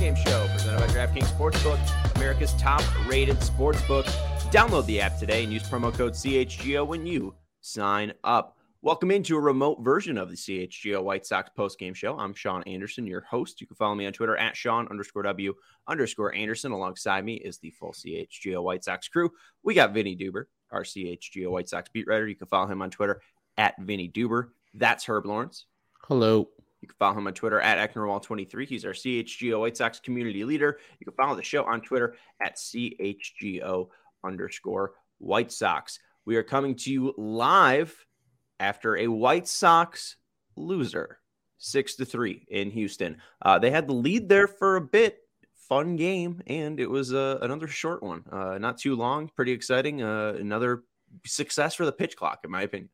postgame show presented by DraftKings Sportsbook, America's top-rated sportsbook. Download the app today and use promo code CHGO when you sign up. Welcome into a remote version of the CHGO White Sox postgame show. I'm Sean Anderson, your host. You can follow me on Twitter at Sean_W_Anderson. Alongside me is the full CHGO White Sox crew. We got Vinny Duber, our CHGO White Sox beat writer. You can follow him on Twitter at Vinny Duber. That's Herb Lawrence. Hello. You can follow him on Twitter at Ecknerwall23. He's our CHGO White Sox community leader. You can follow the show on Twitter at CHGO_White Sox. We are coming to you live after a White Sox loser, 6-3 in Houston. They had the lead there for a bit. Fun game, and it was another short one. Not too long, pretty exciting. Another success for the pitch clock, in my opinion.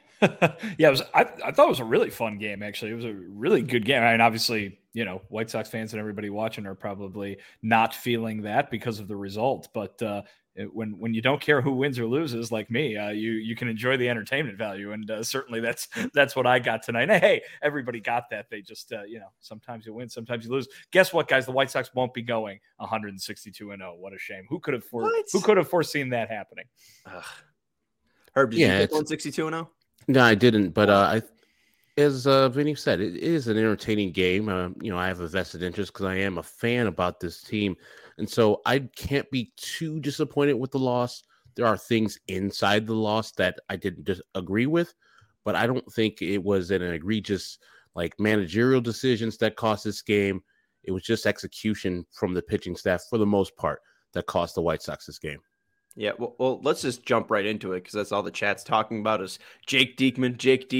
Yeah, I thought it was a really fun game, actually. It was a really good game. I mean, obviously, White Sox fans and everybody watching are probably not feeling that because of the result. But when you don't care who wins or loses, like me, you can enjoy the entertainment value. And certainly that's what I got tonight. And hey, everybody got that. They just, sometimes you win, sometimes you lose. Guess what, guys? The White Sox won't be going 162-0. What a shame. Who could have foreseen that happening? Herb, did you pick 162-0? No, I didn't. But as Vinny said, it is an entertaining game. I have a vested interest because I am a fan about this team. And so I can't be too disappointed with the loss. There are things inside the loss that I didn't agree with, but I don't think it was an egregious managerial decisions that cost this game. It was just execution from the pitching staff for the most part that cost the White Sox this game. Yeah, well, let's just jump right into it because that's all the chat's talking about is Jake Diekman.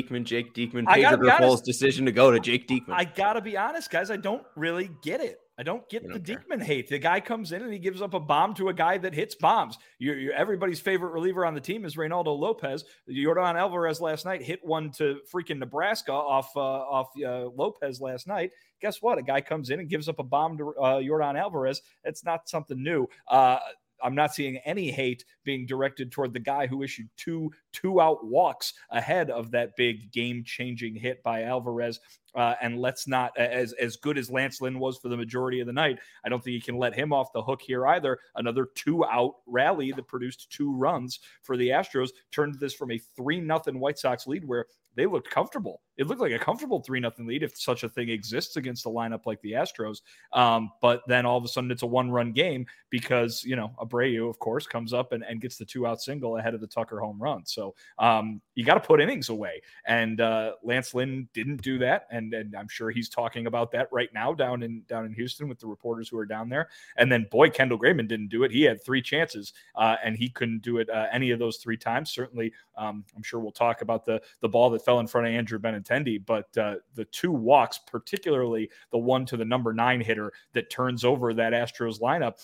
Pedro Grifol's decision to go to Jake Diekman. I got to be honest, guys. I don't really get it. I don't get the Diekman hate. The guy comes in and he gives up a bomb to a guy that hits bombs. Everybody's favorite reliever on the team is Reynaldo Lopez. Yordan Alvarez last night hit one to freaking Nebraska off Lopez last night. Guess what? A guy comes in and gives up a bomb to Yordan Alvarez. It's not something new. I'm not seeing any hate being directed toward the guy who issued two-out walks ahead of that big game-changing hit by Alvarez. And let's not, as good as Lance Lynn was for the majority of the night, I don't think you can let him off the hook here either. Another two-out rally that produced 2 runs for the Astros turned this from a 3-0 White Sox lead where they looked comfortable. It looked like a comfortable 3-0 lead if such a thing exists against a lineup like the Astros. But then all of a sudden it's a 1-run game because, Abreu, of course, comes up and gets the 2-out single ahead of the Tucker home run. So you got to put innings away. And Lance Lynn didn't do that. And I'm sure he's talking about that right now down in Houston with the reporters who are down there. And then, boy, Kendall Graveman didn't do it. He had 3 chances and he couldn't do it any of those 3 times. Certainly, I'm sure we'll talk about the ball that fell in front of Andrew Benintendi, but the 2 walks, particularly the one to the number 9 hitter that turns over that Astros lineup.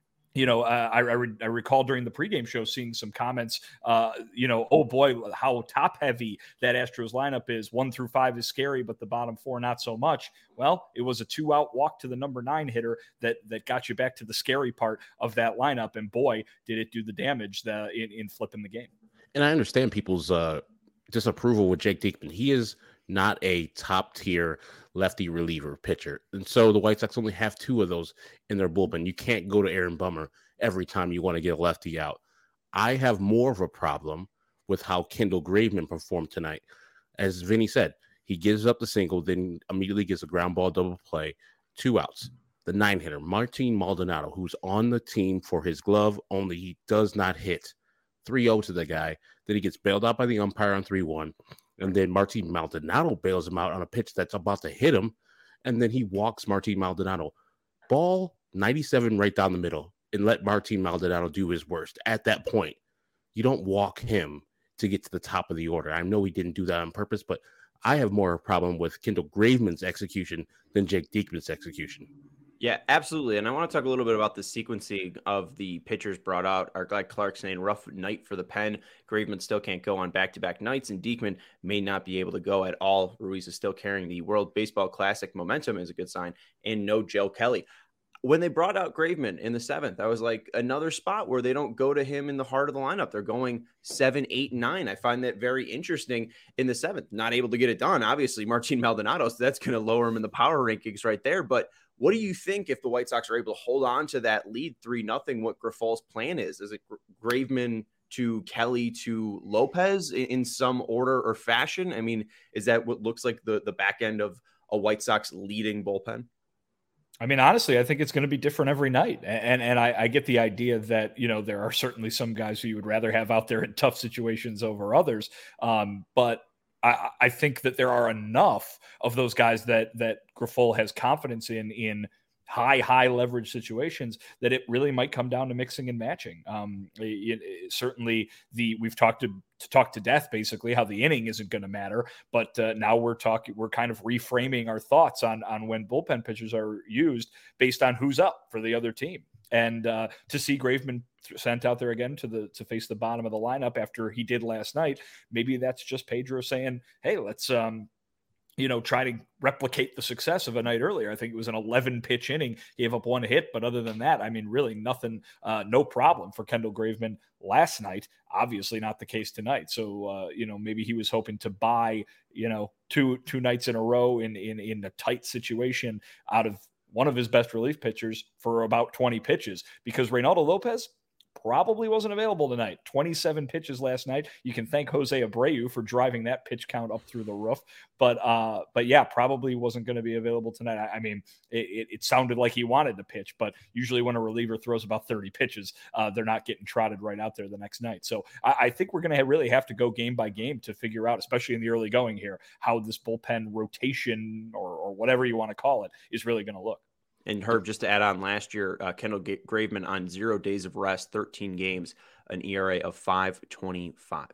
I recall during the pregame show seeing some comments, oh boy, how top heavy that Astros lineup is. 1 through 5 is scary, but the bottom 4, not so much. Well, it was a 2-out walk to the number 9 hitter that got you back to the scary part of that lineup. And boy, did it do the damage in flipping the game. And I understand people's disapproval with Jake Diekman. He is not a top-tier lefty reliever pitcher. And so the White Sox only have 2 of those in their bullpen. You can't go to Aaron Bummer every time you want to get a lefty out. I have more of a problem with how Kendall Graveman performed tonight. As Vinny said, he gives up the single, then immediately gets a ground ball double play, 2 outs. The 9 hitter, Martin Maldonado, who's on the team for his glove, only he does not hit. 3-0 to the guy. Then he gets bailed out by the umpire on 3-1. And then Martin Maldonado bails him out on a pitch that's about to hit him. And then he walks Martin Maldonado. Ball 97 right down the middle and let Martin Maldonado do his worst. At that point, you don't walk him to get to the top of the order. I know he didn't do that on purpose, but I have more of a problem with Kendall Graveman's execution than Jake Diekman's execution. Yeah, absolutely. And I want to talk a little bit about the sequencing of the pitchers brought out. Our guy Clark saying rough night for the pen. Graveman still can't go on back-to-back nights, and Diekman may not be able to go at all. Ruiz is still carrying the World Baseball Classic momentum is a good sign, and no Joe Kelly. When they brought out Graveman in the 7th, I was like, another spot where they don't go to him in the heart of the lineup. They're going 7, 8, 9. I find that very interesting in the 7th. Not able to get it done, obviously, Martin Maldonado, so that's going to lower him in the power rankings right there. But What do you think if the White Sox are able to hold on to that lead 3-0, what Griffol's plan is? Is it Graveman to Kelly to Lopez in some order or fashion? I mean, is that what looks like the back end of a White Sox leading bullpen? I mean, honestly, I think it's going to be different every night. And I get the idea that, there are certainly some guys who you would rather have out there in tough situations over others. But I think that there are enough of those guys that Grifol has confidence in high leverage situations that it really might come down to mixing and matching. Certainly we've talked to death, basically, how the inning isn't going to matter, but now we're kind of reframing our thoughts on when bullpen pitchers are used based on who's up for the other team. And to see Graveman sent out there again to face the bottom of the lineup after he did last night, maybe that's just Pedro saying, hey, let's try to replicate the success of a night earlier. I think it was an 11-pitch inning, gave up 1 hit, but other than that, I mean, really nothing, no problem for Kendall Graveman last night. Obviously not the case tonight. So, maybe he was hoping to buy, two nights in a row in a tight situation out of one of his best relief pitchers for about 20 pitches, because Reynaldo Lopez probably wasn't available tonight. 27 pitches last night. You can thank Jose Abreu for driving that pitch count up through the roof. But yeah, probably wasn't going to be available tonight. I mean, it sounded like he wanted to pitch, but usually when a reliever throws about 30 pitches, they're not getting trotted right out there the next night. So I think we're going to really have to go game by game to figure out, especially in the early going here, how this bullpen rotation or whatever you want to call it is really going to look. And Herb, just to add on, last year, Kendall Graveman on 0 days of rest, 13 games, an ERA of 5.25.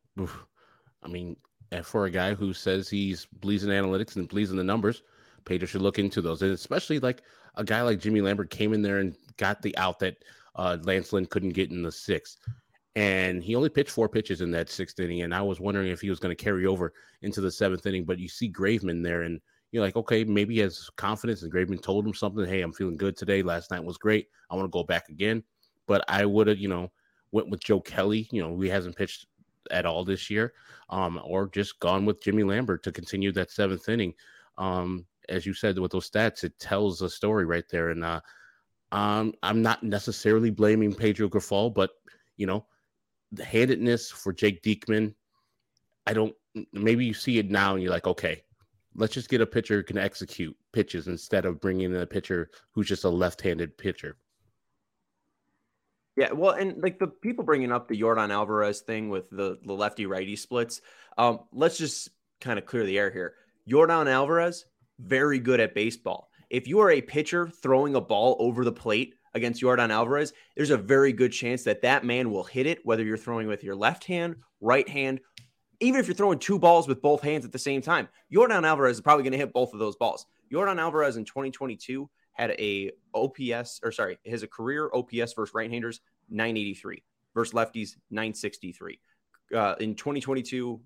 I mean, and for a guy who says he's believes in analytics and believes in the numbers, Pedro should look into those. And especially like a guy like Jimmy Lambert came in there and got the out that Lance Lynn couldn't get in the 6th. And he only pitched 4 pitches in that 6th inning. And I was wondering if he was going to carry over into the 7th inning. But you see Graveman there, and you're like, okay, maybe he has confidence, and Graveman told him something. Hey, I'm feeling good today. Last night was great. I want to go back again. But I would have, went with Joe Kelly, who hasn't pitched at all this year, or just gone with Jimmy Lambert to continue that 7th inning. As you said, with those stats, it tells a story right there. And I'm not necessarily blaming Pedro Grifol, but, the handedness for Jake Diekman, maybe you see it now and you're like, okay, let's just get a pitcher who can execute pitches instead of bringing in a pitcher who's just a left-handed pitcher. Yeah, well, and like the people bringing up the Yordan Alvarez thing with the lefty-righty splits, let's just kind of clear the air here. Yordan Alvarez, very good at baseball. If you are a pitcher throwing a ball over the plate against Yordan Alvarez, there's a very good chance that man will hit it, whether you're throwing with your left hand, right hand, even if you're throwing 2 balls with both hands at the same time. Yordan Alvarez is probably going to hit both of those balls. Yordan Alvarez in 2022 had a career OPS versus right-handers, 983, versus lefties, 963. In 2022,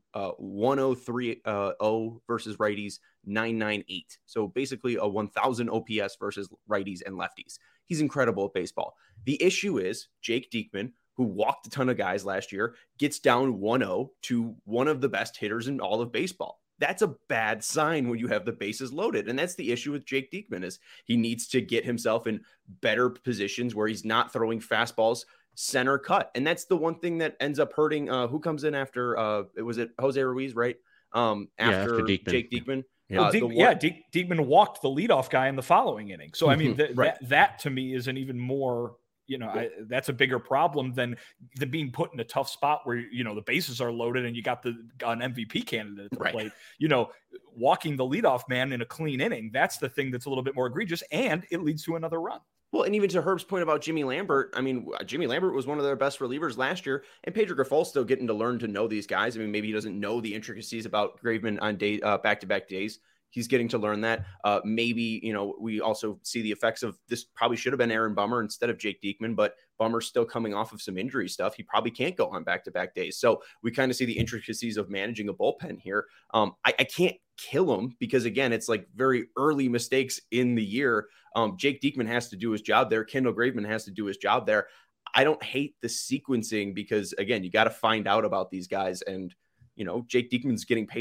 103.0 versus righties, 998. So basically a 1,000 OPS versus righties and lefties. He's incredible at baseball. The issue is Jake Diekman, who walked a ton of guys last year, gets down 1-0 to one of the best hitters in all of baseball. That's a bad sign when you have the bases loaded. And that's the issue with Jake Diekman, is he needs to get himself in better positions where he's not throwing fastballs center cut. And that's the one thing that ends up hurting who comes in after was it Jose Ruiz, right? After Diekman. Jake Diekman. Yeah, Diekman walked the leadoff guy in the following inning. So, I mean, that to me is an even more, that's a bigger problem than being put in a tough spot where, the bases are loaded and you got an MVP candidate at the plate. Walking the leadoff man in a clean inning, that's the thing that's a little bit more egregious, and it leads to another run. Well, and even to Herb's point about Jimmy Lambert, I mean, Jimmy Lambert was one of their best relievers last year, and Pedro Grifol still getting to learn to know these guys. I mean, maybe he doesn't know the intricacies about Graveman on back-to-back days. He's getting to learn that. Maybe, we also see the effects of this. Probably should have been Aaron Bummer instead of Jake Diekman, but Bummer's still coming off of some injury stuff. He probably can't go on back-to-back days. So we kind of see the intricacies of managing a bullpen here. I can't kill him because, again, it's like very early mistakes in the year. Jake Diekman has to do his job there. Kendall Graveman has to do his job there. I don't hate the sequencing because, again, you got to find out about these guys. And, Jake Diekman's getting paid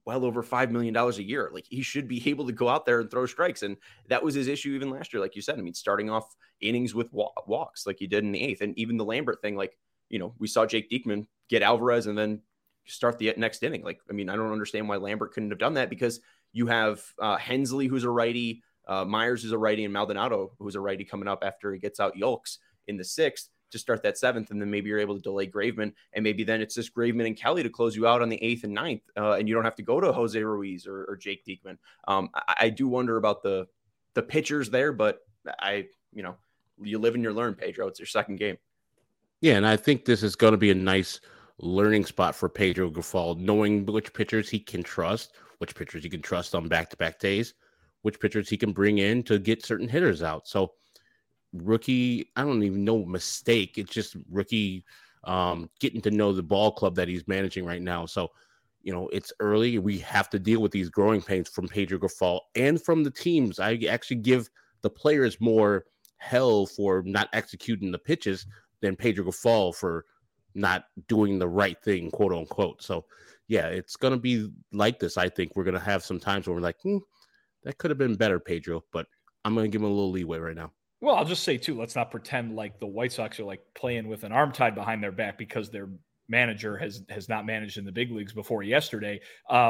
well over $5 million a year. Like, he should be able to go out there and throw strikes. And that was his issue even last year. Like you said, I mean, starting off innings with walks like he did in the 8th. And even the Lambert thing, like, we saw Jake Diekman get Alvarez and then start the next inning. Like, I mean, I don't understand why Lambert couldn't have done that, because you have Hensley, who's a righty, Myers, who's a righty, and Maldonado, who's a righty, coming up after he gets out Yolks in the 6th to start that 7th. And then maybe you're able to delay Graveman, and maybe then it's just Graveman and Kelly to close you out on the 8th and 9th. And you don't have to go to Jose Ruiz or Jake Diekman. I do wonder about the pitchers there, but you live and you learn, Pedro. It's your second game. Yeah. And I think this is going to be a nice learning spot for Pedro Grifol, knowing which pitchers he can trust, which pitchers he can trust on back-to-back days, which pitchers he can bring in to get certain hitters out. So rookie, I don't even know mistake. It's just rookie getting to know the ball club that he's managing right now. So, it's early. We have to deal with these growing pains from Pedro Grifol and from the teams. I actually give the players more hell for not executing the pitches than Pedro Grifol for not doing the right thing, quote unquote. So yeah, it's going to be like this. I think we're going to have some times where we're like, that could have been better, Pedro, but I'm going to give him a little leeway right now. Well, I'll just say too, let's not pretend like the White Sox are like playing with an arm tied behind their back because their manager has not managed in the big leagues before yesterday.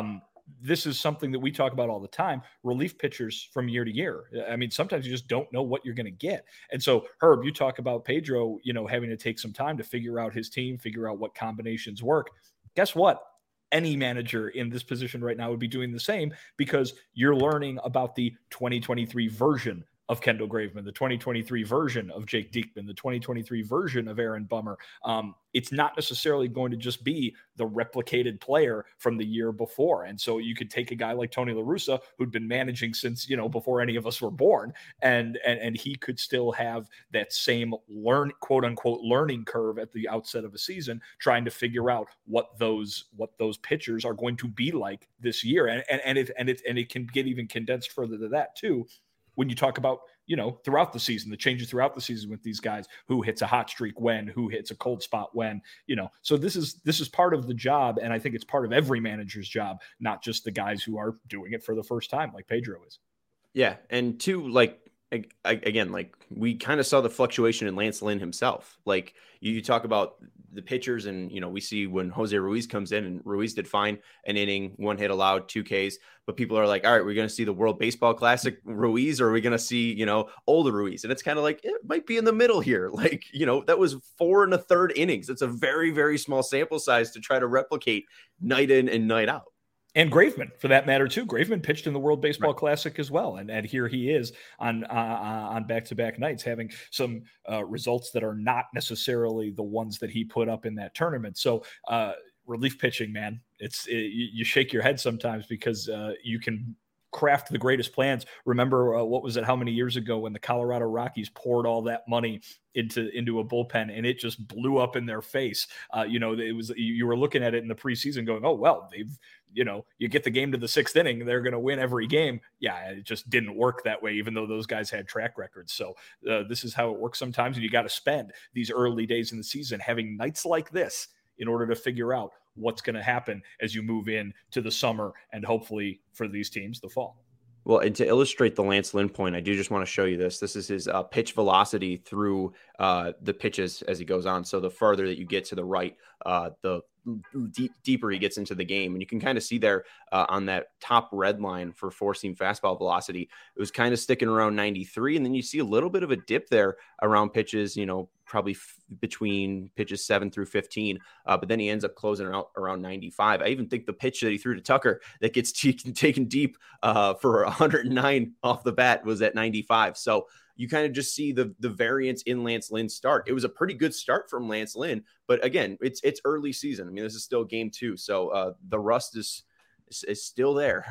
This is something that we talk about all the time, relief pitchers from year to year. I mean, sometimes you just don't know what you're going to get. And so, Herb, you talk about Pedro, having to take some time to figure out his team, figure out what combinations work. Guess what? Any manager in this position right now would be doing the same, because you're learning about the 2023 version of Kendall Graveman, the 2023 version of Jake Diekman, the 2023 version of Aaron Bummer. It's not necessarily going to just be the replicated player from the year before. And so you could take a guy like Tony La Russa, who'd been managing since, before any of us were born. And he could still have that same quote unquote learning curve at the outset of a season, trying to figure out what those pitchers are going to be like this year. And it can get even condensed further to that too, when you talk about, throughout the season, the changes throughout the season with these guys, who hits a hot streak when, who hits a cold spot when, so this is part of the job. And I think it's part of every manager's job, not just the guys who are doing it for the first time, like Pedro is. Yeah. And two, like, again, like, we kind of saw the fluctuation in Lance Lynn himself. Like, you talk about the pitchers, and we see when Jose Ruiz comes in, and Ruiz did fine, an inning, 1 hit allowed, 2 Ks, but people are like, all right, we're going to see the World Baseball Classic Ruiz, or are we going to see, older Ruiz? And it's kind of like, it might be in the middle here. Like, that was 4 1/3 innings. It's a very, very small sample size to try to replicate night in and night out. And Graveman, for that matter, too. Graveman pitched in the World Baseball Classic as well. And here he is on back-to-back nights, having some results that are not necessarily the ones that he put up in that tournament. So relief pitching, man, you shake your head sometimes, because you can craft the greatest plans. Remember, what was it, how many years ago, when the Colorado Rockies poured all that money into a bullpen, and it just blew up in their face? It was, you were looking at it in the preseason going, oh, well, they've, you get the game to the 6th inning, they're going to win every game. Yeah, it just didn't work that way, even though those guys had track records. So this is how it works sometimes. And you got to spend these early days in the season having nights like this in order to figure out what's going to happen as you move in to the summer, and hopefully for these teams, the fall. Well, and to illustrate the Lance Lynn point, I do just want to show you this. This is his pitch velocity through the pitches as he goes on. So the farther that you get to the right, the deeper he gets into the game. And you can kind of see there on that top red line for four-seam fastball velocity, it was kind of sticking around 93. And then you see a little bit of a dip there around pitches, probably between pitches 7 through 15. But then he ends up closing out around 95. I even think the pitch that he threw to Tucker that gets taken deep for 109 off the bat was at 95. So you kind of just see the variance in Lance Lynn's start. It was a pretty good start from Lance Lynn, but again, it's early season. I mean, this is still game 2. So the rust is still there.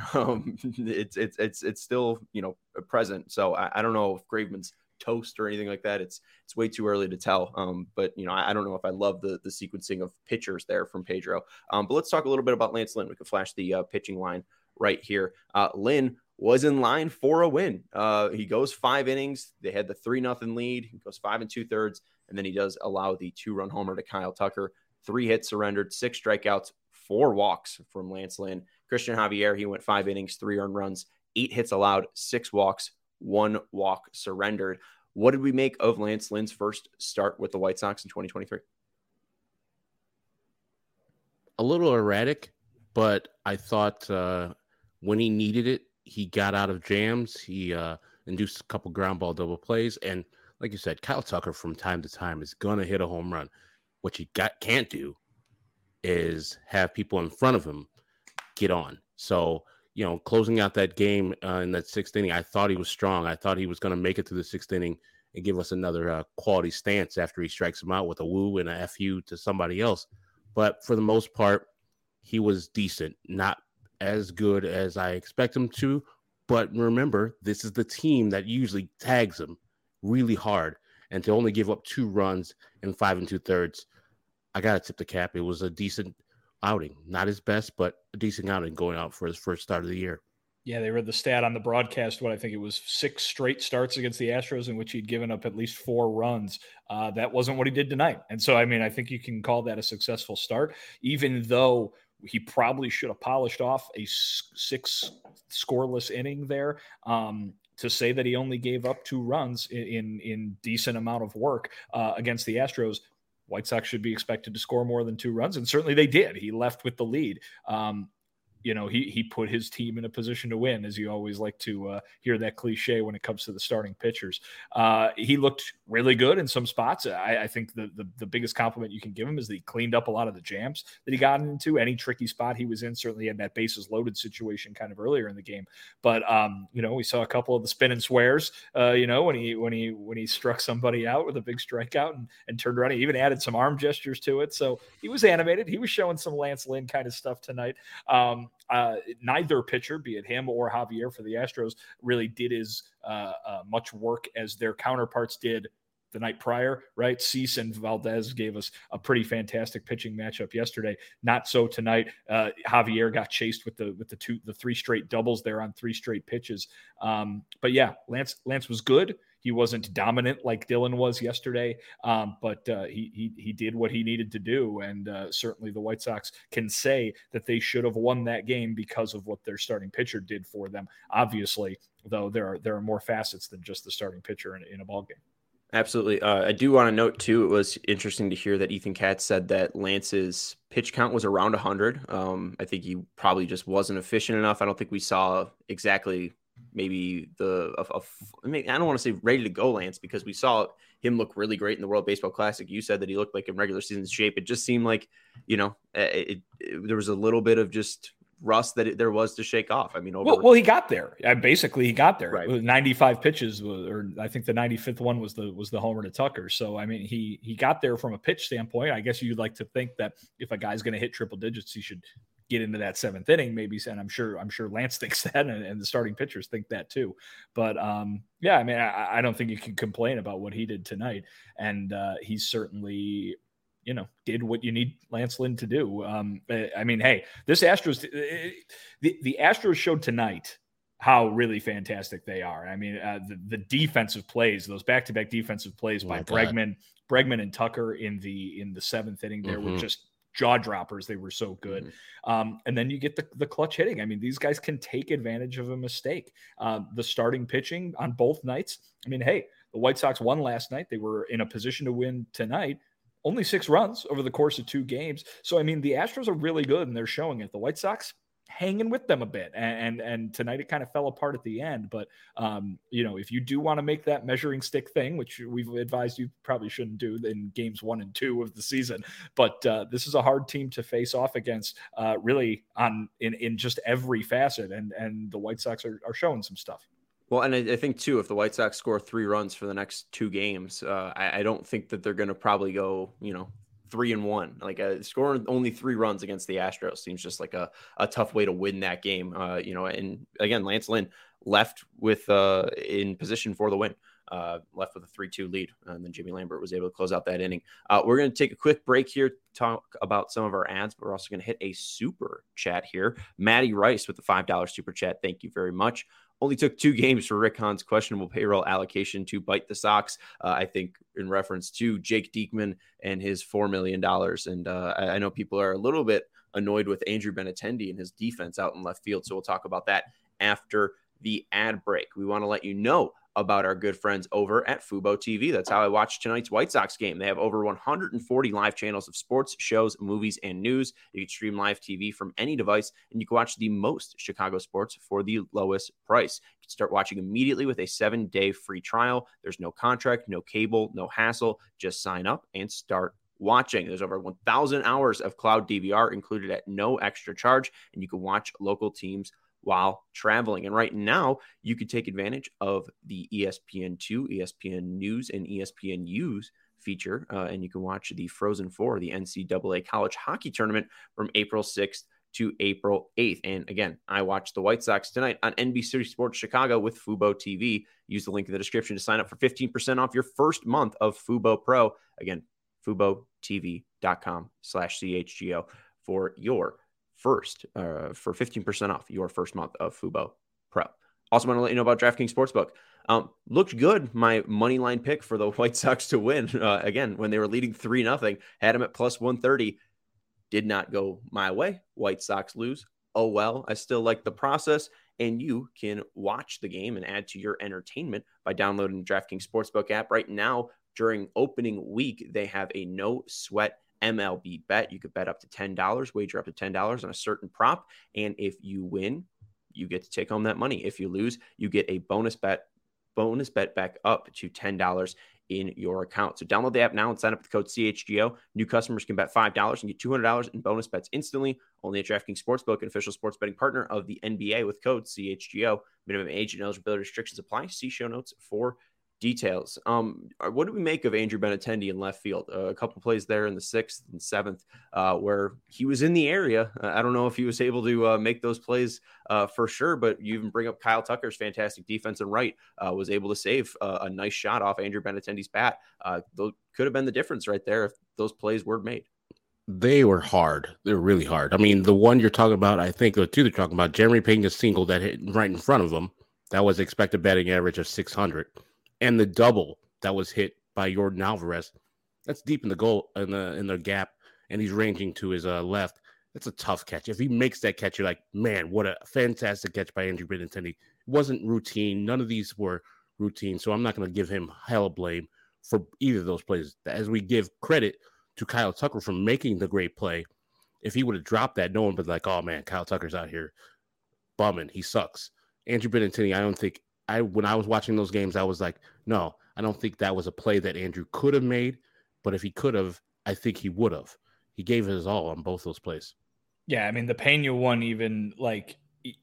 It's still, present. So I don't know if Graveman's toast or anything like that. It's way too early to tell. But I don't know if I love the sequencing of pitchers there from Pedro. But let's talk a little bit about Lance Lynn. We can flash the pitching line right here. Lynn was in line for a win. He goes 5 innings. They had the 3-0 lead. He goes 5 2/3. And then he does allow the 2-run homer to Kyle Tucker, 3 hits surrendered, 6 strikeouts, 4 walks from Lance Lynn. Christian Javier, he went 5 innings, 3 earned runs, 8 hits allowed, 6 walks, 1 walk surrendered. What did we make of Lance Lynn's first start with the White Sox in 2023? A little erratic, but I thought when he needed it, he got out of jams. He induced a couple ground ball double plays. And like you said, Kyle Tucker from time to time is going to hit a home run. What you can't do is have people in front of him get on. So, closing out that game in that 6th inning, I thought he was strong. I thought he was going to make it to the 6th inning and give us another quality stance after he strikes him out with a woo and a FU to somebody else. But for the most part, he was decent, not as good as I expect him to. But remember, this is the team that usually tags him really hard. And to only give up 2 runs in 5 2/3, I got to tip the cap. It was a decent outing. Not his best, but a decent outing going out for his first start of the year. Yeah, they read the stat on the broadcast. I think it was 6 straight starts against the Astros in which he'd given up at least 4 runs. That wasn't what he did tonight. And so, I think you can call that a successful start, even though he probably should have polished off a 6 scoreless inning there. To say that he only gave up 2 runs in decent amount of work against the Astros, White Sox should be expected to score more than 2 runs, and certainly they did. He left with the lead. He put his team in a position to win, as you always like to hear that cliche when it comes to the starting pitchers. He looked really good in some spots. I think the biggest compliment you can give him is that he cleaned up a lot of the jams that he got into. Any tricky spot he was in, certainly in that bases loaded situation kind of earlier in the game. But we saw a couple of the spin and swears. When he struck somebody out with a big strikeout and turned around. He even added some arm gestures to it. So he was animated. He was showing some Lance Lynn kind of stuff tonight. Neither pitcher, be it him or Javier for the Astros, really did as much work as their counterparts did the night prior, right? Cease and Valdez gave us a pretty fantastic pitching matchup yesterday. Not so tonight. Javier got chased with the 3 straight doubles there on 3 straight pitches. But yeah, Lance was good. He wasn't dominant like Dylan was yesterday, but he did what he needed to do, and certainly the White Sox can say that they should have won that game because of what their starting pitcher did for them. Obviously, though, there are more facets than just the starting pitcher in a ball game. Absolutely. I do want to note, too, it was interesting to hear that Ethan Katz said that Lance's pitch count was around 100. I think he probably just wasn't efficient enough. I don't think we saw exactly maybe I don't want to say ready to go Lance, because we saw him look really great in the World Baseball Classic. You said that he looked like in regular season shape. It just seemed like, there was a little bit of just rust that there was to shake off. Well, he got there. Basically, he got there. Right. 95 pitches, or I think the 95th one was the homer to Tucker. So, he got there from a pitch standpoint. I guess you'd like to think that if a guy's going to hit triple digits, he should get into that 7th inning, maybe. And I'm sure Lance thinks that, and the starting pitchers think that too. But I don't think you can complain about what he did tonight. And he's certainly, did what you need Lance Lynn to do. Hey, this Astros, the Astros showed tonight how really fantastic they are. The defensive plays, those back-to-back defensive plays by Bregman and Tucker in the 7th inning there were just jaw droppers. They were so good. And then you get the clutch hitting. These guys can take advantage of a mistake. The starting pitching on both nights. The White Sox won last night. They were in a position to win tonight. Only 6 runs over the course of 2 games. So, the Astros are really good, and they're showing it. The White Sox hanging with them a bit. And tonight it kind of fell apart at the end. But, if you do want to make that measuring stick thing, which we've advised you probably shouldn't do in games 1 and 2 of the season, but this is a hard team to face off against really in just every facet. And the White Sox are showing some stuff. Well, and I think, too, if the White Sox score 3 runs for the next 2 games, I don't think that they're going to probably go, 3-1. Like scoring only 3 runs against the Astros seems just like a tough way to win that game. And again, Lance Lynn left with in position for the win, left with a 3-2 lead. And then Jimmy Lambert was able to close out that inning. We're going to take a quick break here, talk about some of our ads, but we're also going to hit a super chat here. Matty Rice with the $5 super chat. Thank you very much. Only took 2 games for Rick Hahn's questionable payroll allocation to bite the Sox. I think in reference to Jake Diekman and his $4 million. And I know people are a little bit annoyed with Andrew Benintendi and his defense out in left field. So we'll talk about that after the ad break. We want to let you know about our good friends over at Fubo TV. That's how I watched tonight's White Sox game. They have over 140 live channels of sports, shows, movies, and news. You can stream live TV from any device, and you can watch the most Chicago sports for the lowest price. You can start watching immediately with a 7-day free trial. There's no contract, no cable, no hassle. Just sign up and start watching. There's over 1,000 hours of cloud DVR included at no extra charge, and you can watch local teams while traveling. And right now, you could take advantage of the ESPN2, ESPN News, and ESPN Use feature, and you can watch the Frozen Four, the NCAA College Hockey Tournament from April 6th to April 8th. And again, I watched the White Sox tonight on NBC Sports Chicago with Fubo TV. Use the link in the description to sign up for 15% off your first month of Fubo Pro. Again, FuboTV.com/CHGO for your for 15% off your first month of Fubo Pro. Also want to let you know about DraftKings Sportsbook. Looked good. My money line pick for the White Sox to win, again, when they were leading 3-0, had them at plus 130. Did not go my way. White Sox lose. Oh, well, I still like the process. And you can watch the game and add to your entertainment by downloading the DraftKings Sportsbook app. Right now, during opening week, they have a no sweat MLB bet. You could bet up to $10, wager up to $10 on a certain prop. And if you win, you get to take home that money. If you lose, you get a bonus bet back up to $10 in your account. So download the app now and sign up with the code CHGO. New customers can bet $5 and get $200 in bonus bets instantly. Only at DraftKings Sportsbook, an official sports betting partner of the NBA, with code CHGO. Minimum age and eligibility restrictions apply. See show notes for details. What do we make of Andrew Benintendi in left field? A couple plays there in the 6th and 7th where he was in the area. I don't know if he was able to make those plays for sure, but you even bring up Kyle Tucker's fantastic defense and right was able to save a nice shot off Andrew Benintendi's bat. Those could have been the difference right there if those plays were made. They were hard. They were really hard. I mean, the one you're talking about, I think the two they're talking about, Jeremy Pena's single that hit right in front of them, that was expected batting average of 600. And the double that was hit by Yordan Alvarez, that's deep in the goal in the gap, and he's ranging to his left. That's a tough catch. If he makes that catch, you're like, man, what a fantastic catch by Andrew Benintendi. It wasn't routine. None of these were routine, so I'm not going to give him hella blame for either of those plays. As we give credit to Kyle Tucker for making the great play, if he would have dropped that, no one would be like, oh man, Kyle Tucker's out here bumming. He sucks. Andrew Benintendi, I don't think. When I was watching those games, I was like, no, I don't think that was a play that Andrew could have made. But if he could have, I think he would have. He gave his all on both those plays. Yeah, I mean, the Pena one, even like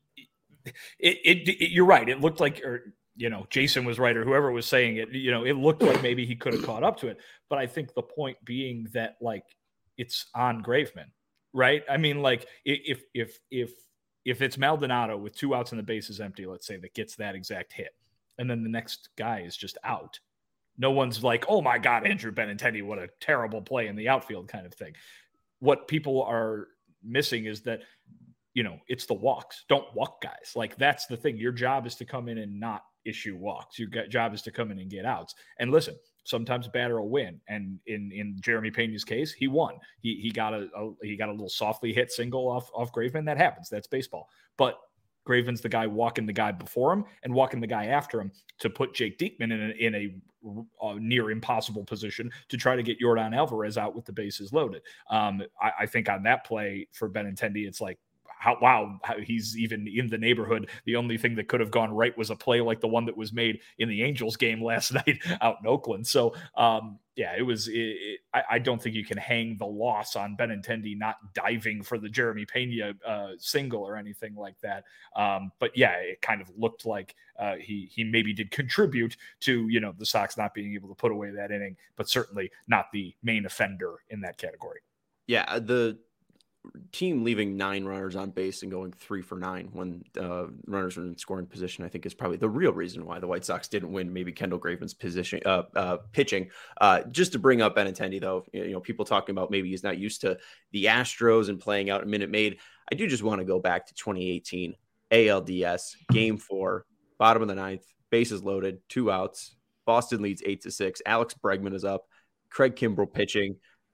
you're right. It looked like, or Jason was right, or whoever was saying it. It looked like maybe he could have caught up to it. But I think the point being that like it's on Graveman, right? I mean, like if it's Maldonado with 2 outs and the base is empty, let's say, that gets that exact hit, and then the next guy is just out, no one's like, oh my God, Andrew Benintendi, what a terrible play in the outfield kind of thing. What people are missing is that, it's the walks. Don't walk guys. Like, that's the thing. Your job is to come in and not issue walks. Your job is to come in and get outs. And listen, sometimes a batter will win. And in Jeremy Pena's case, he won. He got a little softly hit single off Graveman. That happens. That's baseball. But Graveman's the guy walking the guy before him and walking the guy after him to put Jake Diekman in a near impossible position to try to get Yordan Alvarez out with the bases loaded. I think on that play for Benintendi, it's like, how he's even in the neighborhood. The only thing that could have gone right was a play like the one that was made in the Angels game last night out in Oakland. So, it was. I don't think you can hang the loss on Benintendi not diving for the Jeremy Pena single or anything like that. But yeah, it kind of looked like he maybe did contribute to the Sox not being able to put away that inning, but certainly not the main offender in that category. Yeah, the team leaving 9 runners on base and going 3 for 9 when runners are in scoring position, I think, is probably the real reason why the White Sox didn't win. Maybe Kendall Graveman's pitching. Just to bring up Benintendi, though, people talking about maybe he's not used to the Astros and playing out a Minute Maid. I do just want to go back to 2018 ALDS Game 4, bottom of the 9th, bases loaded, 2 outs. Boston leads 8-6. Alex Bregman is up. Craig Kimbrell pitching.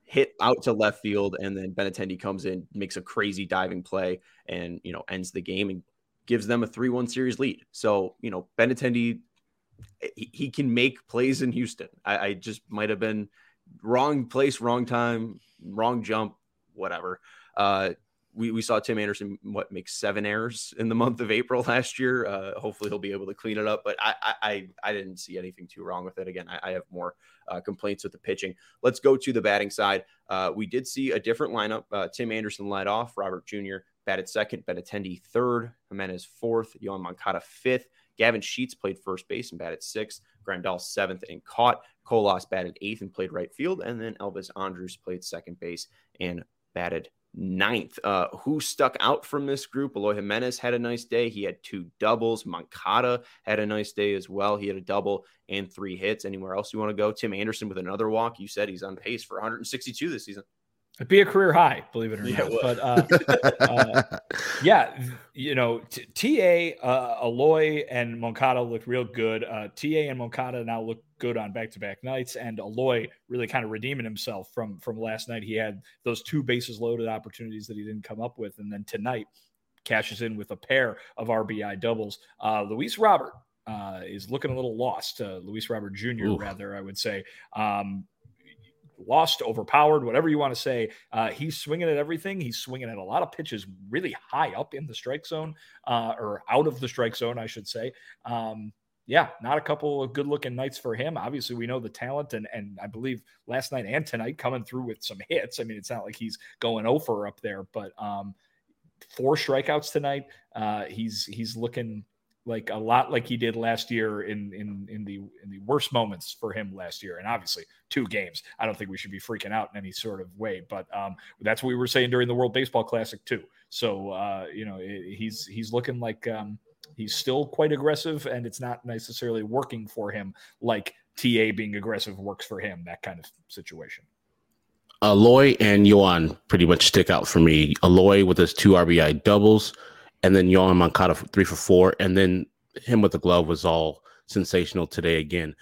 hit out to left field, and then Benintendi comes in, makes a crazy diving play, and ends the game and gives them a 3-1 series lead. So Benintendi, he can make plays in Houston. I just might have been wrong place, wrong time, wrong jump, whatever. We saw Tim Anderson make 7 errors in the month of April last year. Hopefully he'll be able to clean it up, but I didn't see anything too wrong with it. Again, I have more complaints with the pitching. Let's go to the batting side. We did see a different lineup. Tim Anderson led off, Robert Jr. batted second, Benintendi third, Jimenez fourth, Yoan Moncada fifth. Gavin Sheets played first base and batted sixth. Grandal seventh and caught. Colas batted eighth and played right field. And then Elvis Andrus played second base and batted ninth. Who stuck out from this group? Eloy Jimenez had a nice day. He had 2 doubles. Moncada had a nice day as well. He had a double and 3 hits. Anywhere else you want to go? Tim Anderson with another walk. You said he's on pace for 162 this season. It'd be a career high, believe it or not. But yeah, TA, Eloy, and Moncada looked real good. TA and Moncada now look good on back-to-back nights, and Eloy really kind of redeeming himself from last night. He had those 2 bases loaded opportunities that he didn't come up with, and then tonight cashes in with a pair of RBI doubles. Luis Robert is looking a little lost. Luis Robert Jr., rather, I would say. Lost, overpowered, whatever you want to say. He's swinging at everything. He's swinging at a lot of pitches really high up in the strike zone, or out of the strike zone, I should say. Yeah, not a couple of good-looking nights for him. Obviously, we know the talent, and I believe last night and tonight coming through with some hits. I mean, it's not like he's going over up there, but 4 strikeouts tonight. He's looking like a lot like he did last year in the worst moments for him last year. And obviously 2 games. I don't think we should be freaking out in any sort of way, but that's what we were saying during the World Baseball Classic too. So, he's looking like he's still quite aggressive, and it's not necessarily working for him like TA being aggressive works for him, that kind of situation. Eloy and Yoan pretty much stick out for me. Eloy with his 2 RBI doubles, and then Yoan Moncada 3 for 4, and then him with the glove was all sensational today again.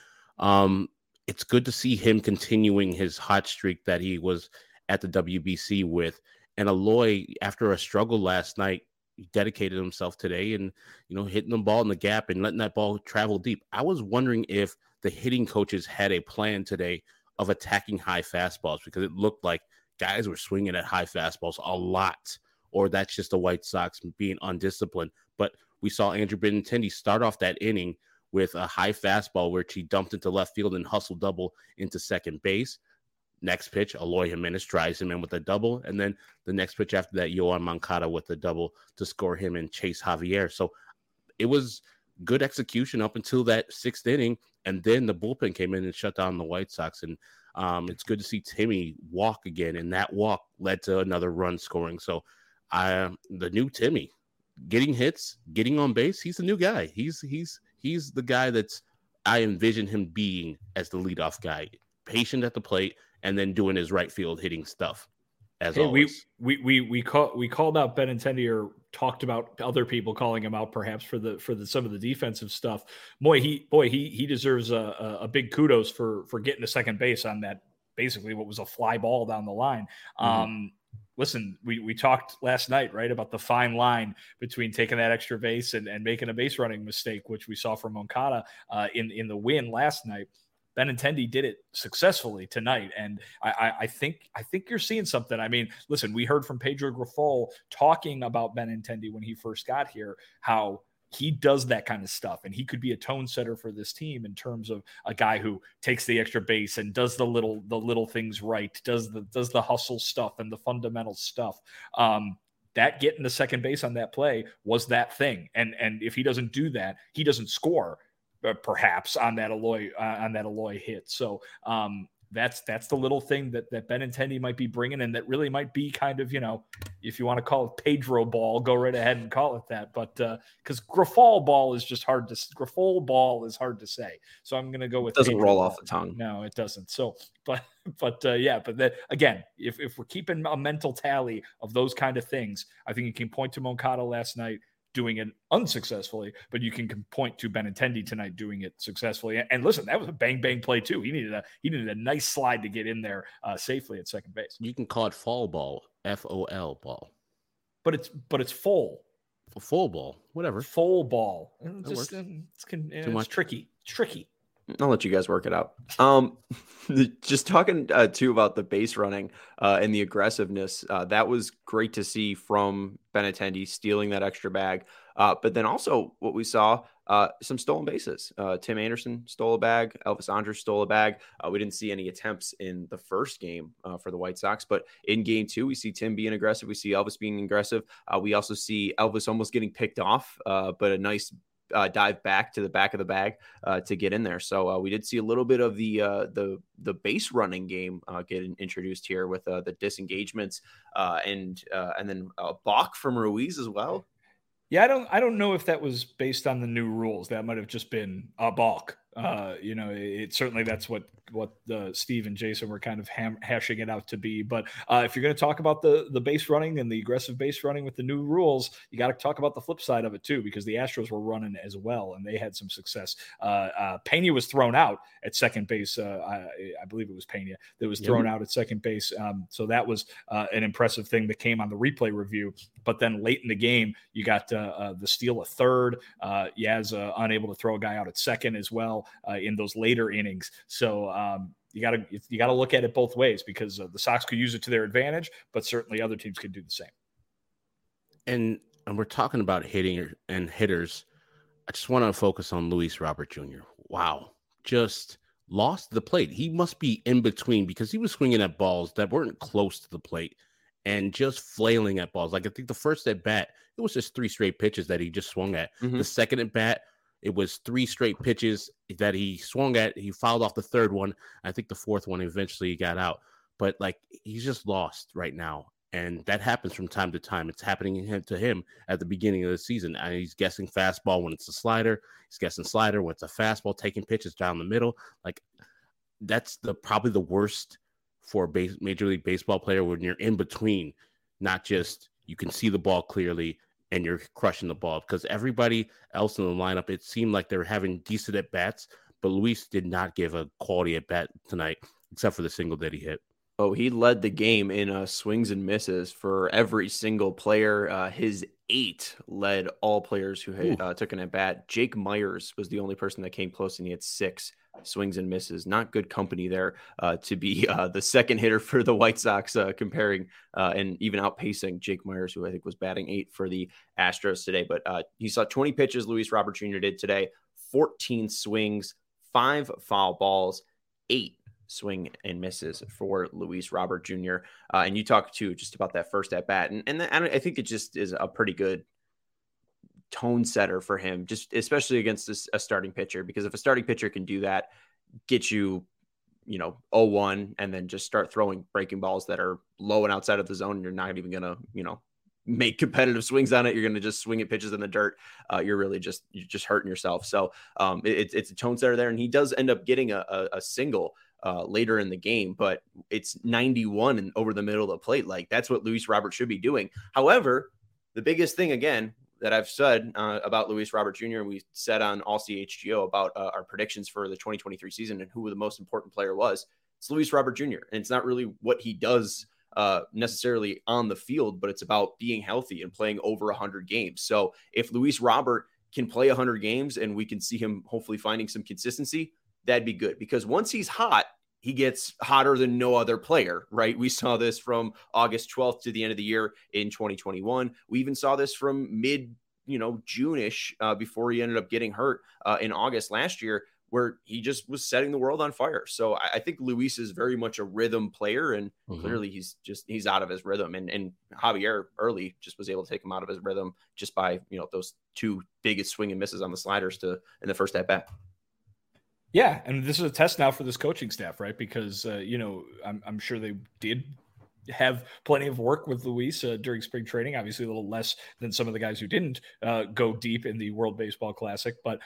It's good to see him continuing his hot streak that he was at the WBC with. And Eloy, after a struggle last night, he dedicated himself today and, hitting the ball in the gap and letting that ball travel deep. I was wondering if the hitting coaches had a plan today of attacking high fastballs, because it looked like guys were swinging at high fastballs a lot. Or that's just the White Sox being undisciplined. But we saw Andrew Benintendi start off that inning with a high fastball where he dumped into left field and hustled double into second base. Next pitch, Eloy Jimenez drives him in with a double. And then the next pitch after that, Yoan Moncada with a double to score him and chase Javier. So it was good execution up until that 6th inning. And then the bullpen came in and shut down the White Sox. And it's good to see Timmy walk again. And that walk led to another run scoring. So the new Timmy getting hits, getting on base. He's the new guy. He's the guy that's I envision him being as the leadoff guy, patient at the plate, and then doing his right field hitting stuff. As always, we called out Benintendi, or talked about other people calling him out perhaps for some of the defensive stuff. He deserves a big kudos for getting to second base on that, basically what was a fly ball down the line. Mm-hmm. Listen, we talked last night, right, about the fine line between taking that extra base and making a base running mistake, which we saw from Moncada in the win last night. Benintendi did it successfully tonight, and I think you're seeing something. I mean, listen, we heard from Pedro Grifol talking about Benintendi when he first got here, how he does that kind of stuff, and he could be a tone setter for this team in terms of a guy who takes the extra base and does the little things right, does the hustle stuff and the fundamental stuff. That getting the second base on that play was that thing, and if he doesn't do that, he doesn't score. Perhaps on that Eloy hit. So that's the little thing that Benintendi might be bringing, and that really might be kind of, if you want to call it Pedro ball, go right ahead and call it that. But because Grifol ball is hard to say. So I'm going to go with it doesn't Pedro roll ball. Off the tongue. No, it doesn't. So, but then again, if we're keeping a mental tally of those kind of things, I think you can point to Moncada last night. doing it unsuccessfully, but you can point to Benintendi tonight doing it successfully. And listen, that was a bang play too. He needed a nice slide to get in there safely at second base. You can call it fall ball, FOL ball, but it's full. Full ball, whatever. Full ball. Just, it's tricky. It's tricky. I'll let you guys work it out. Just talking too about the base running and the aggressiveness. That was great to see from Benintendi stealing that extra bag. But then also what we saw, some stolen bases. Tim Anderson stole a bag. Elvis Andrus stole a bag. We didn't see any attempts in the first game for the White Sox, but in game 2, we see Tim being aggressive. We see Elvis being aggressive. We also see Elvis almost getting picked off, but a nice dive back to the back of the bag to get in there. So we did see a little bit of the base running game getting introduced here with the disengagements and then a balk from Ruiz as well. Yeah, I don't know if that was based on the new rules. That might have just been a balk. It certainly that's what Steve and Jason were kind of hashing it out to be. But if you're going to talk about the base running and the aggressive base running with the new rules, you got to talk about the flip side of it too, because the Astros were running as well and they had some success. Pena was thrown out at second base. I believe it was Pena that was thrown out at second base. So that was an impressive thing that came on the replay review. But then late in the game, you got the steal a third. Yaz unable to throw a guy out at second as well in those later innings. So you got to look at it both ways, because the Sox could use it to their advantage, but certainly other teams could do the same. And we're talking about hitting and hitters. I just want to focus on Luis Robert Jr. Wow, just lost the plate. He must be in between, because he was swinging at balls that weren't close to the plate and just flailing at balls. Like, I think the first at bat, it was just 3 straight pitches that he just swung at. Mm-hmm. The second at bat, it was 3 straight pitches that he swung at. He fouled off the third one. I think the fourth one eventually got out. But, like, he's just lost right now. And that happens from time to time. It's happening to him at the beginning of the season. And he's guessing fastball when it's a slider. He's guessing slider when it's a fastball, taking pitches down the middle. Like, that's probably the worst for a Major League Baseball player, when you're in between, not just you can see the ball clearly and you're crushing the ball. Because everybody else in the lineup, it seemed like they were having decent at-bats, but Luis did not give a quality at-bat tonight, except for the single that he hit. Oh, he led the game in swings and misses for every single player. His 8 led all players who took an at-bat. Jake Myers was the only person that came close, and he had 6 swings and misses. Not good company there to be the second hitter for the White Sox, comparing and even outpacing Jake Myers, who I think was batting 8 for the Astros today. But he saw 20 pitches, Luis Robert Jr. did today, 14 swings, 5 foul balls, 8 swing and misses for Luis Robert Jr. And you talked too just about that first at bat, and I think it just is a pretty good tone setter for him, just especially against a starting pitcher, because if a starting pitcher can do that, get you 0-1, and then just start throwing breaking balls that are low and outside of the zone, and you're not even gonna make competitive swings on it. You're gonna just swing at pitches in the dirt. You're just hurting yourself. So it's a tone setter there, and he does end up getting a single later in the game, but it's 91 and over the middle of the plate. Like, that's what Luis Robert should be doing. However, the biggest thing, again, that I've said about Luis Robert Jr., and we said on All CHGO about our predictions for the 2023 season and who the most important player was, it's Luis Robert Jr. And it's not really what he does necessarily on the field, but it's about being healthy and playing over 100 games. So if Luis Robert can play 100 games and we can see him hopefully finding some consistency, that'd be good, because once he's hot, he gets hotter than no other player, right? We saw this from August 12th to the end of the year in 2021. We even saw this from mid, June-ish before he ended up getting hurt in August last year, where he just was setting the world on fire. So I think Luis is very much a rhythm player, and clearly he's out of his rhythm. And Javier early just was able to take him out of his rhythm just by, those 2 biggest swing and misses on the sliders in the first at bat. Yeah, and this is a test now for this coaching staff, right? Because, I'm sure they did have plenty of work with Luis during spring training, obviously a little less than some of the guys who didn't go deep in the World Baseball Classic. But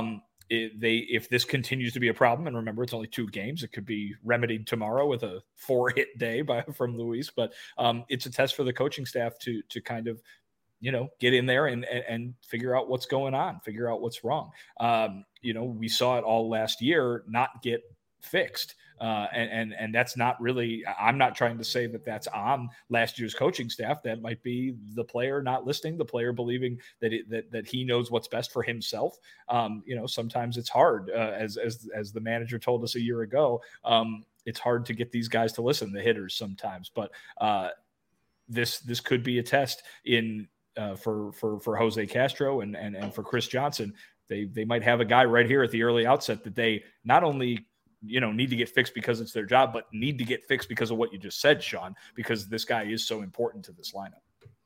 if this continues to be a problem, and remember, it's only 2 games, it could be remedied tomorrow with a 4-hit day from Luis. But it's a test for the coaching staff to kind of get in there and figure out what's going on, figure out what's wrong. We saw it all last year not get fixed. And that's not really, I'm not trying to say that that's on last year's coaching staff. That might be the player not listening, the player believing that he knows what's best for himself. Sometimes it's hard, as the manager told us a year ago. It's hard to get these guys to listen, the hitters sometimes, but this could be a test for Jose Castro and for Chris Johnson. They might have a guy right here at the early outset that they not only need to get fixed because it's their job, but need to get fixed because of what you just said, Sean, because this guy is so important to this lineup.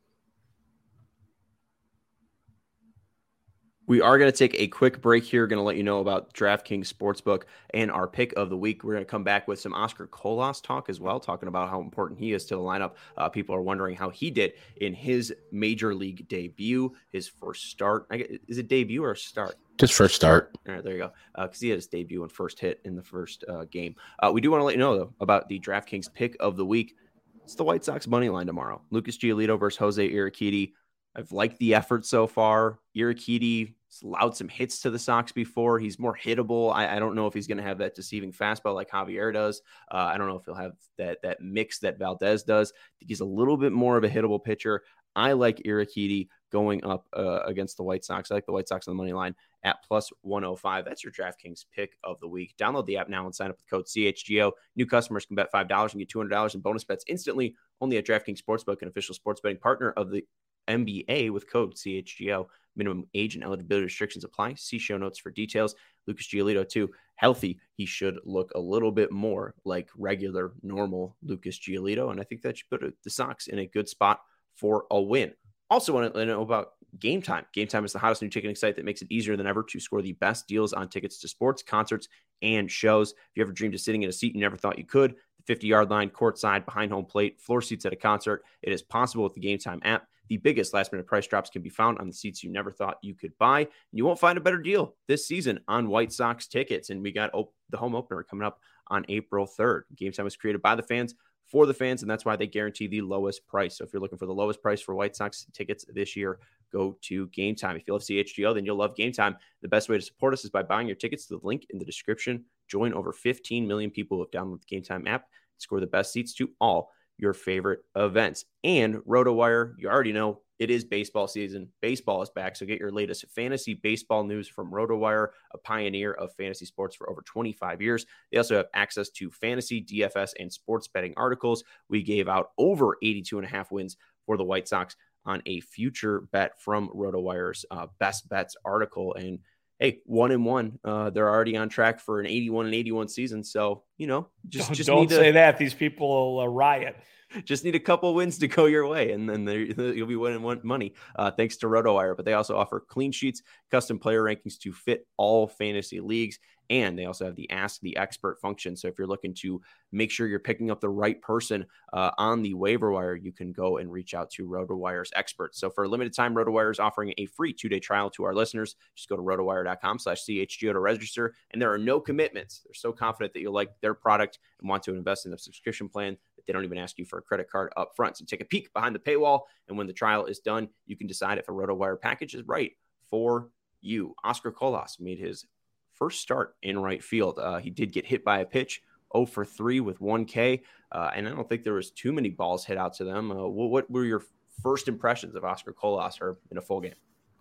We are going to take a quick break here. Going to let you know about DraftKings Sportsbook and our pick of the week. We're going to come back with some Oscar Colas talk as well, talking about how important he is to the lineup. People are wondering how he did in his major league debut, his first start. Is it debut or start? Just first start. All right, there you go. Because he had his debut and first hit in the first game. We do want to let you know, though, about the DraftKings pick of the week. It's the White Sox money line tomorrow. Lucas Giolito versus Jose Urquidy. I've liked the effort so far. Urquidy allowed some hits to the Sox before. He's more hittable. I don't know if he's going to have that deceiving fastball like Javier does. I don't know if he'll have that mix that Valdez does. I think he's a little bit more of a hittable pitcher. I like Urquidy going up against the White Sox. I like the White Sox on the money line at plus 105. That's your DraftKings pick of the week. Download the app now and sign up with code CHGO. New customers can bet $5 and get $200 in bonus bets instantly only at DraftKings Sportsbook, an official sports betting partner of the NBA with code CHGO. Minimum age and eligibility restrictions apply. See show notes for details. Lucas Giolito, too, healthy. He should look a little bit more like regular, normal Lucas Giolito, and I think that should put the Sox in a good spot for a win. Also want to know about Game Time. Game Time is the hottest new ticketing site that makes it easier than ever to score the best deals on tickets to sports, concerts, and shows. If you ever dreamed of sitting in a seat you never thought you could, the 50-yard line, courtside, behind home plate, floor seats at a concert, it is possible with the Game Time app. The biggest last-minute price drops can be found on the seats you never thought you could buy. And you won't find a better deal this season on White Sox tickets. And we got the home opener coming up on April 3rd. Game Time was created by the fans for the fans, and that's why they guarantee the lowest price. So if you're looking for the lowest price for White Sox tickets this year, go to Game Time. If you love CHGO, then you'll love Game Time. The best way to support us is by buying your tickets to the link in the description. Join over 15 million people who have downloaded the Game Time app. Score the best seats to all your favorite events. And RotoWire, you already know, it is baseball season. Baseball is back, so get your latest fantasy baseball news from RotoWire, a pioneer of fantasy sports for over 25 years. They also have access to fantasy, DFS, and sports betting articles. We gave out over 82.5 wins for the White Sox on a future bet from RotoWire's Best Bets article. And hey, 1-1. They're already on track for an 81-81 season. So, just don't say that. These people will riot. Just need a couple wins to go your way, and then you'll be winning money thanks to RotoWire. But they also offer clean sheets, custom player rankings to fit all fantasy leagues, and they also have the Ask the Expert function. So if you're looking to make sure you're picking up the right person on the waiver wire, you can go and reach out to RotoWire's experts. So for a limited time, RotoWire is offering a free 2-day trial to our listeners. Just go to rotowire.com/CHGO to register, and there are no commitments. They're so confident that you'll like their product and want to invest in a subscription plan. They don't even ask you for a credit card up front. So take a peek behind the paywall, and when the trial is done, you can decide if a RotoWire package is right for you. Oscar Colas made his first start in right field. He did get hit by a pitch, 0 for 3 with 1 K, and I don't think there was too many balls hit out to them. What were your first impressions of Oscar Colas in a full game?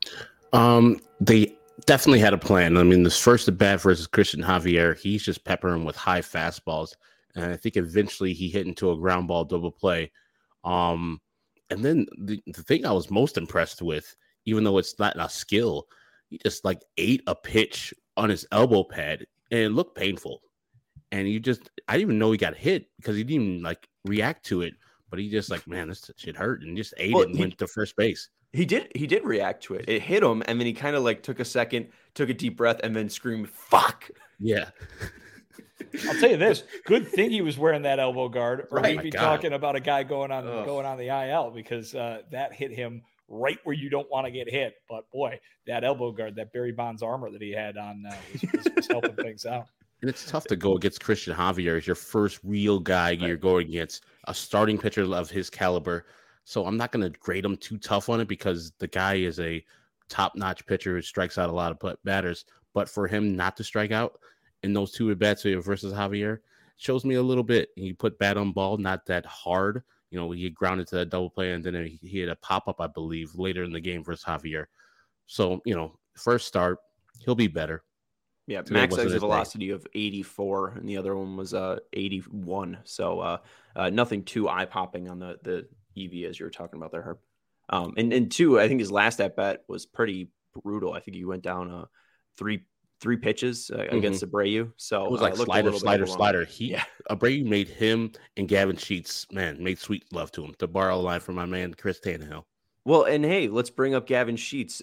They definitely had a plan. I mean, this first at bat versus Christian Javier, he's just peppering with high fastballs. And I think eventually he hit into a ground ball double play. And then the thing I was most impressed with, even though it's not a skill, he just ate a pitch on his elbow pad and it looked painful. And I didn't even know he got hit because he didn't even react to it. But he just man, this shit hurt, and just ate it and went to first base. He did react to it. It hit him, and then he kind of took a second, took a deep breath, and then screamed, "Fuck!" Yeah. I'll tell you this: good thing he was wearing that elbow guard, or right. we'd be talking about a guy going on the IL, because that hit him right where you don't want to get hit. But boy, that elbow guard, that Barry Bonds armor that he had on, was helping things out. And it's tough to go against Christian Javier as your first real guy you're going against, a starting pitcher of his caliber. So I'm not going to grade him too tough on it because the guy is a top-notch pitcher who strikes out a lot of batters. But for him not to strike out in those 2 at-bats versus Javier shows me a little bit. He put bat on ball, not that hard. He grounded to that double play, and then he had a pop-up, I believe, later in the game versus Javier. So, first start, he'll be better. Yeah, max exit velocity of 84, and the other one was 81. So nothing too eye-popping on the EV as you were talking about there, Herb. And 2, I think his last at-bat was pretty brutal. I think he went down three pitches against Abreu. So it was like slider. Abreu made him and Gavin Sheets, made sweet love to him, to borrow a line from my man Chris Tannehill. Well, and hey, let's bring up Gavin Sheets.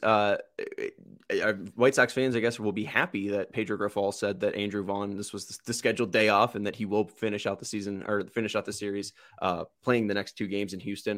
White Sox fans, I guess, will be happy that Pedro Grifol said that Andrew Vaughn, this was the scheduled day off, and that he will finish out the season or finish out the series playing the next 2 games in Houston.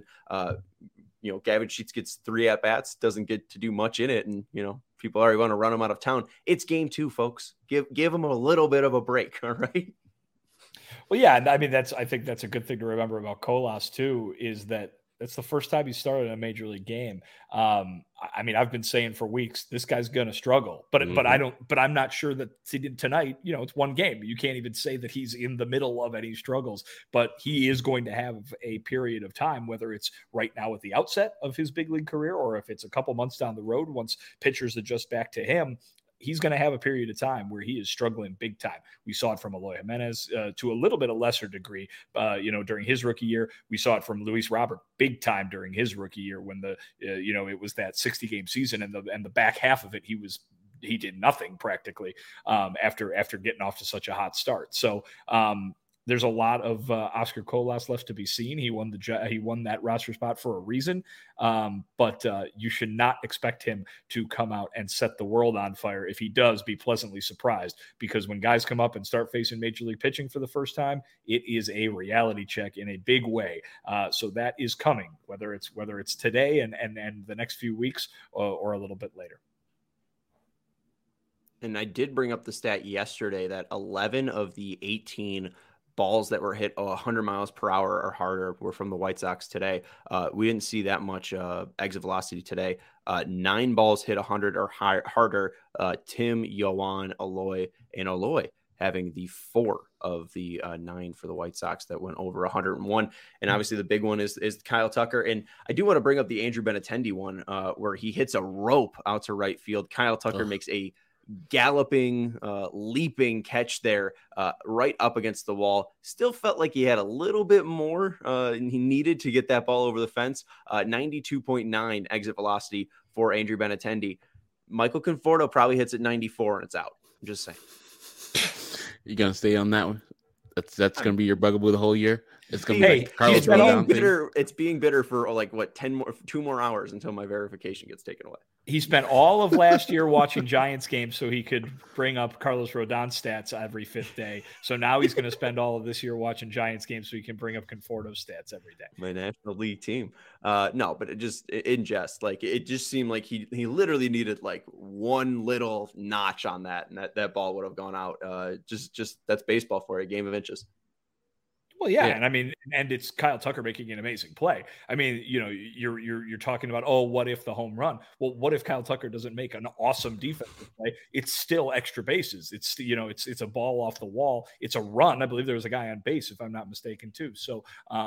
Gavin Sheets gets 3 at-bats, doesn't get to do much in it, and, people already want to run him out of town. It's game 2, folks. Give him a little bit of a break, all right? Well, yeah, I mean, I think that's a good thing to remember about Colas, too, is that that's the first time he started a major league game. I mean, I've been saying for weeks, this guy's going to struggle, but I'm not sure that tonight, it's 1 game. You can't even say that he's in the middle of any struggles, but he is going to have a period of time, whether it's right now at the outset of his big league career, or if it's a couple months down the road, once pitchers adjust back to him. He's going to have a period of time where he is struggling big time. We saw it from Eloy Jimenez to a little bit of lesser degree, during his rookie year. We saw it from Luis Robert big time during his rookie year when it was that 60-game season and the back half of it, he did nothing practically after getting off to such a hot start. So there's a lot of Oscar Colas left to be seen. He won that roster spot for a reason, but you should not expect him to come out and set the world on fire. If he does, be pleasantly surprised, because when guys come up and start facing major league pitching for the first time, it is a reality check in a big way. So that is coming, whether it's today and the next few weeks or a little bit later. And I did bring up the stat yesterday that 11 of the 18 balls that were hit 100 miles per hour or harder were from the White Sox today. We didn't see that much exit velocity today. 9 balls hit 100 or harder. Tim, Yoan, Eloy having the 4 of the 9 for the White Sox that went over 101. And obviously the big one is Kyle Tucker. And I do want to bring up the Andrew Benintendi one where he hits a rope out to right field. Kyle Tucker makes a galloping, leaping catch there right up against the wall. Still felt like he had a little bit more he needed to get that ball over the fence. 92.9 exit velocity for Andrew Benintendi. Michael Conforto probably hits at 94 and it's out. I'm just saying. You gonna stay on that one? That's gonna be your bugaboo the whole year. It's gonna be like Carlos Rodon bitter. It's being bitter for 2 more hours until my verification gets taken away. He spent all of last year watching Giants games so he could bring up Carlos Rodon stats every 5th day. So now he's going to spend all of this year watching Giants games so he can bring up Conforto stats every day. My National League team. No, but it just seemed like he literally needed one little notch on that, and that ball would have gone out. Just that's baseball for you, game of inches. Well, yeah, and I mean, and it's Kyle Tucker making an amazing play. I mean, you're talking about, what if the home run? Well, what if Kyle Tucker doesn't make an awesome defensive play? It's still extra bases. It's it's a ball off the wall. It's a run. I believe there was a guy on base, if I'm not mistaken, too. So,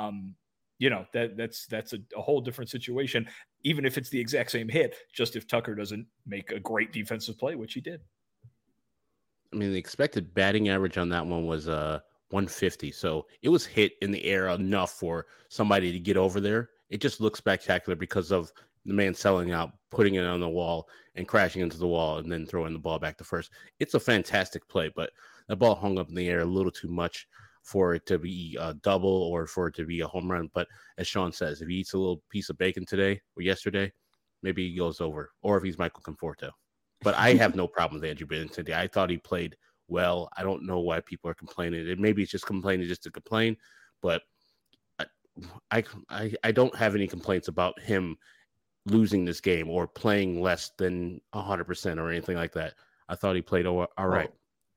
that's a whole different situation. Even if it's the exact same hit, just if Tucker doesn't make a great defensive play, which he did. I mean, the expected batting average on that one was 150. So it was hit in the air enough for somebody to get over there. It just looks spectacular because of the man selling out, putting it on the wall and crashing into the wall and then throwing the ball back to first. It's a fantastic play, but the ball hung up in the air a little too much for it to be a double or for it to be a home run. But as Sean says, if he eats a little piece of bacon today or yesterday, maybe he goes over, or if he's Michael Conforto. But I have no problem with Andrew Benintendi. I thought he played well. I don't know why people are complaining. Maybe it's just complaining just to complain, but I don't have any complaints about him losing this game or playing less than 100% or anything like that. I thought he played all right.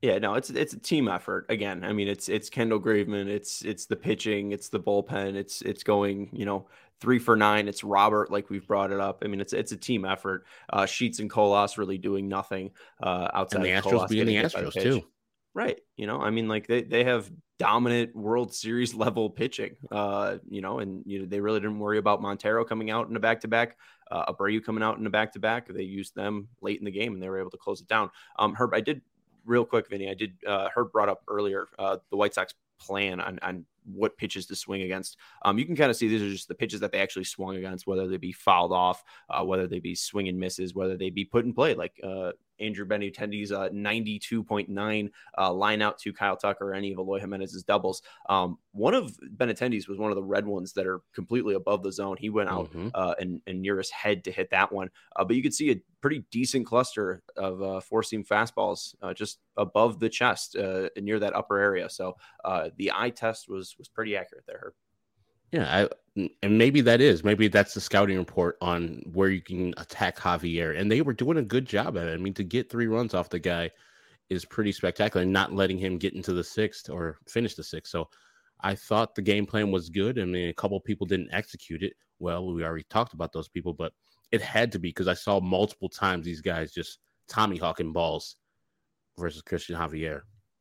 Yeah, no, it's a team effort. Again, I mean, it's Kendall Graveman, it's the pitching, it's the bullpen, it's going, 3 for 9. It's Robert, like we've brought it up. I mean, it's a team effort. Sheets and Colas really doing nothing outside And the of Astros Colas being getting the hit by the Astros pitch. too. Right. I mean, like they have dominant World Series level pitching, and they really didn't worry about Montero coming out in a back-to-back, Abreu coming out in a back-to-back. They used them late in the game and they were able to close it down. Herb, I did real quick, Vinny, Herb brought up earlier, the White Sox plan on what pitches to swing against. You can kind of see these are just the pitches that they actually swung against, whether they be fouled off, whether they be swing and misses, whether they be put in play, like Andrew Benintendi's 92.9 line out to Kyle Tucker or any of Eloy Jimenez's doubles. One of Benintendi's was one of the red ones that are completely above the zone. He went out and near his head to hit that one. But you could see a pretty decent cluster of four-seam fastballs just above the chest near that upper area. So the eye test was pretty accurate there, Herb. Yeah, and maybe that's the scouting report on where you can attack Javier, and they were doing a good job at it. I mean, to get 3 runs off the guy is pretty spectacular, and not letting him get into the 6th or finish the 6th. So I thought the game plan was good. I mean, a couple of people didn't execute it well. We already talked about those people, but it had to be, because I saw multiple times these guys just tommyhawking balls versus Christian Javier.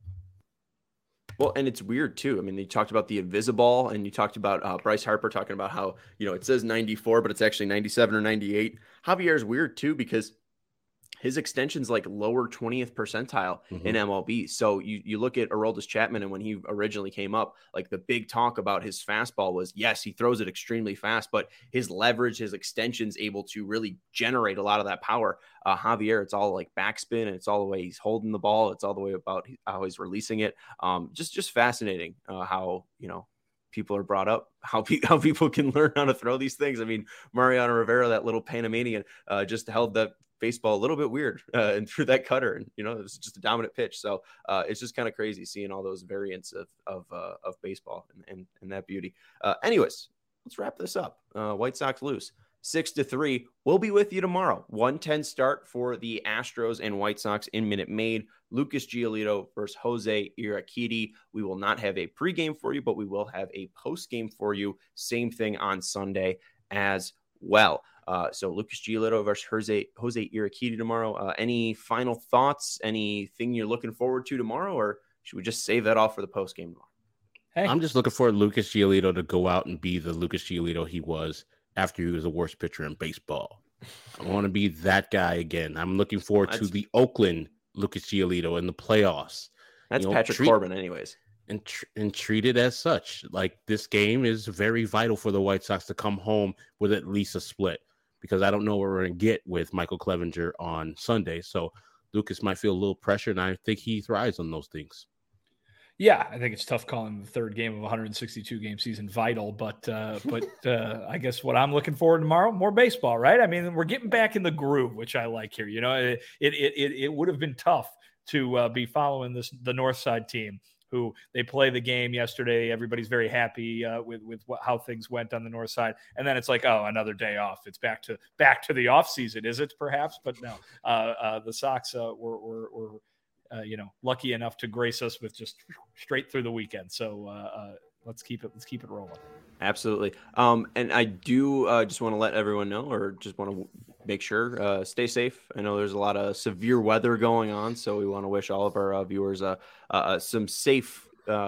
Well, and it's weird too. I mean, you talked about the Invisiball, and you talked about Bryce Harper talking about how, it says 94, but it's actually 97 or 98. Javier is weird too, because his extension's like lower 20th percentile in MLB. So you look at Aroldis Chapman, and when he originally came up, like the big talk about his fastball was, yes, he throws it extremely fast, but his leverage, his extension's able to really generate a lot of that power. Javier, it's all like backspin, and it's all the way he's holding the ball. It's all the way about how he's releasing it. Just fascinating how, people are brought up, how people can learn how to throw these things. I mean, Mariano Rivera, that little Panamanian, just held that baseball a little bit weird and threw that cutter, and it was just a dominant pitch. So it's just kind of crazy seeing all those variants of baseball and that beauty. Anyways, let's wrap this up. White Sox lose 6-3. We'll be with you tomorrow. 1:10 start for the Astros and White Sox in Minute Maid. Lucas Giolito versus Jose Urquidy. We will not have a pregame for you, but we will have a postgame for you. Same thing on Sunday as well. So Lucas Giolito versus Jose Urquidy tomorrow. Any final thoughts? Anything you're looking forward to tomorrow, or should we just save that off for the postgame tomorrow? Hey. I'm just looking for Lucas Giolito to go out and be the Lucas Giolito he was after he was the worst pitcher in baseball. I want to be that guy again. I'm looking forward to the Oakland Lucas Giolito in the playoffs. That's Patrick Corbin anyways. And treat it as such. Like, this game is very vital for the White Sox to come home with at least a split, because I don't know what we're going to get with Michael Clevinger on Sunday. So Lucas might feel a little pressure, and I think he thrives on those things. Yeah, I think it's tough calling the third game of a 162-game season vital, but I guess what I'm looking forward to tomorrow, more baseball, right? I mean, we're getting back in the groove, which I like here. It would have been tough to be following the North Side team, who they play the game yesterday. Everybody's very happy with how things went on the North Side, and then it's like, oh, another day off. It's back to the off season, is it? Perhaps, but no. The Sox were lucky enough to grace us with just straight through the weekend. So let's keep it rolling. Absolutely. And I do just want to let everyone know, or just want to make sure, stay safe. I know there's a lot of severe weather going on, so we want to wish all of our viewers some safe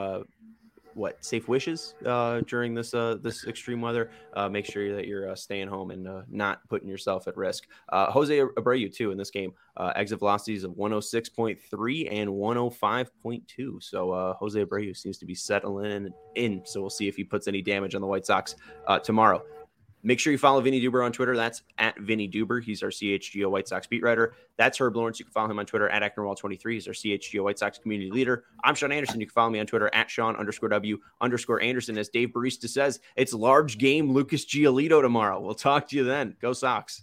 wishes during this extreme weather. Make sure that you're staying home and not putting yourself at risk. Jose Abreu too in this game, exit velocities of 106.3 and 105.2. So Jose Abreu seems to be settling in. So we'll see if he puts any damage on the White Sox tomorrow. Make sure you follow Vinny Duber on Twitter. That's at Vinny Duber. He's our CHGO White Sox beat writer. That's Herb Lawrence. You can follow him on Twitter at Acknerwall23. He's our CHGO White Sox community leader. I'm Sean Anderson. You can follow me on Twitter at Sean_W_Anderson. As Dave Barista says, it's large game Lucas Giolito tomorrow. We'll talk to you then. Go Sox.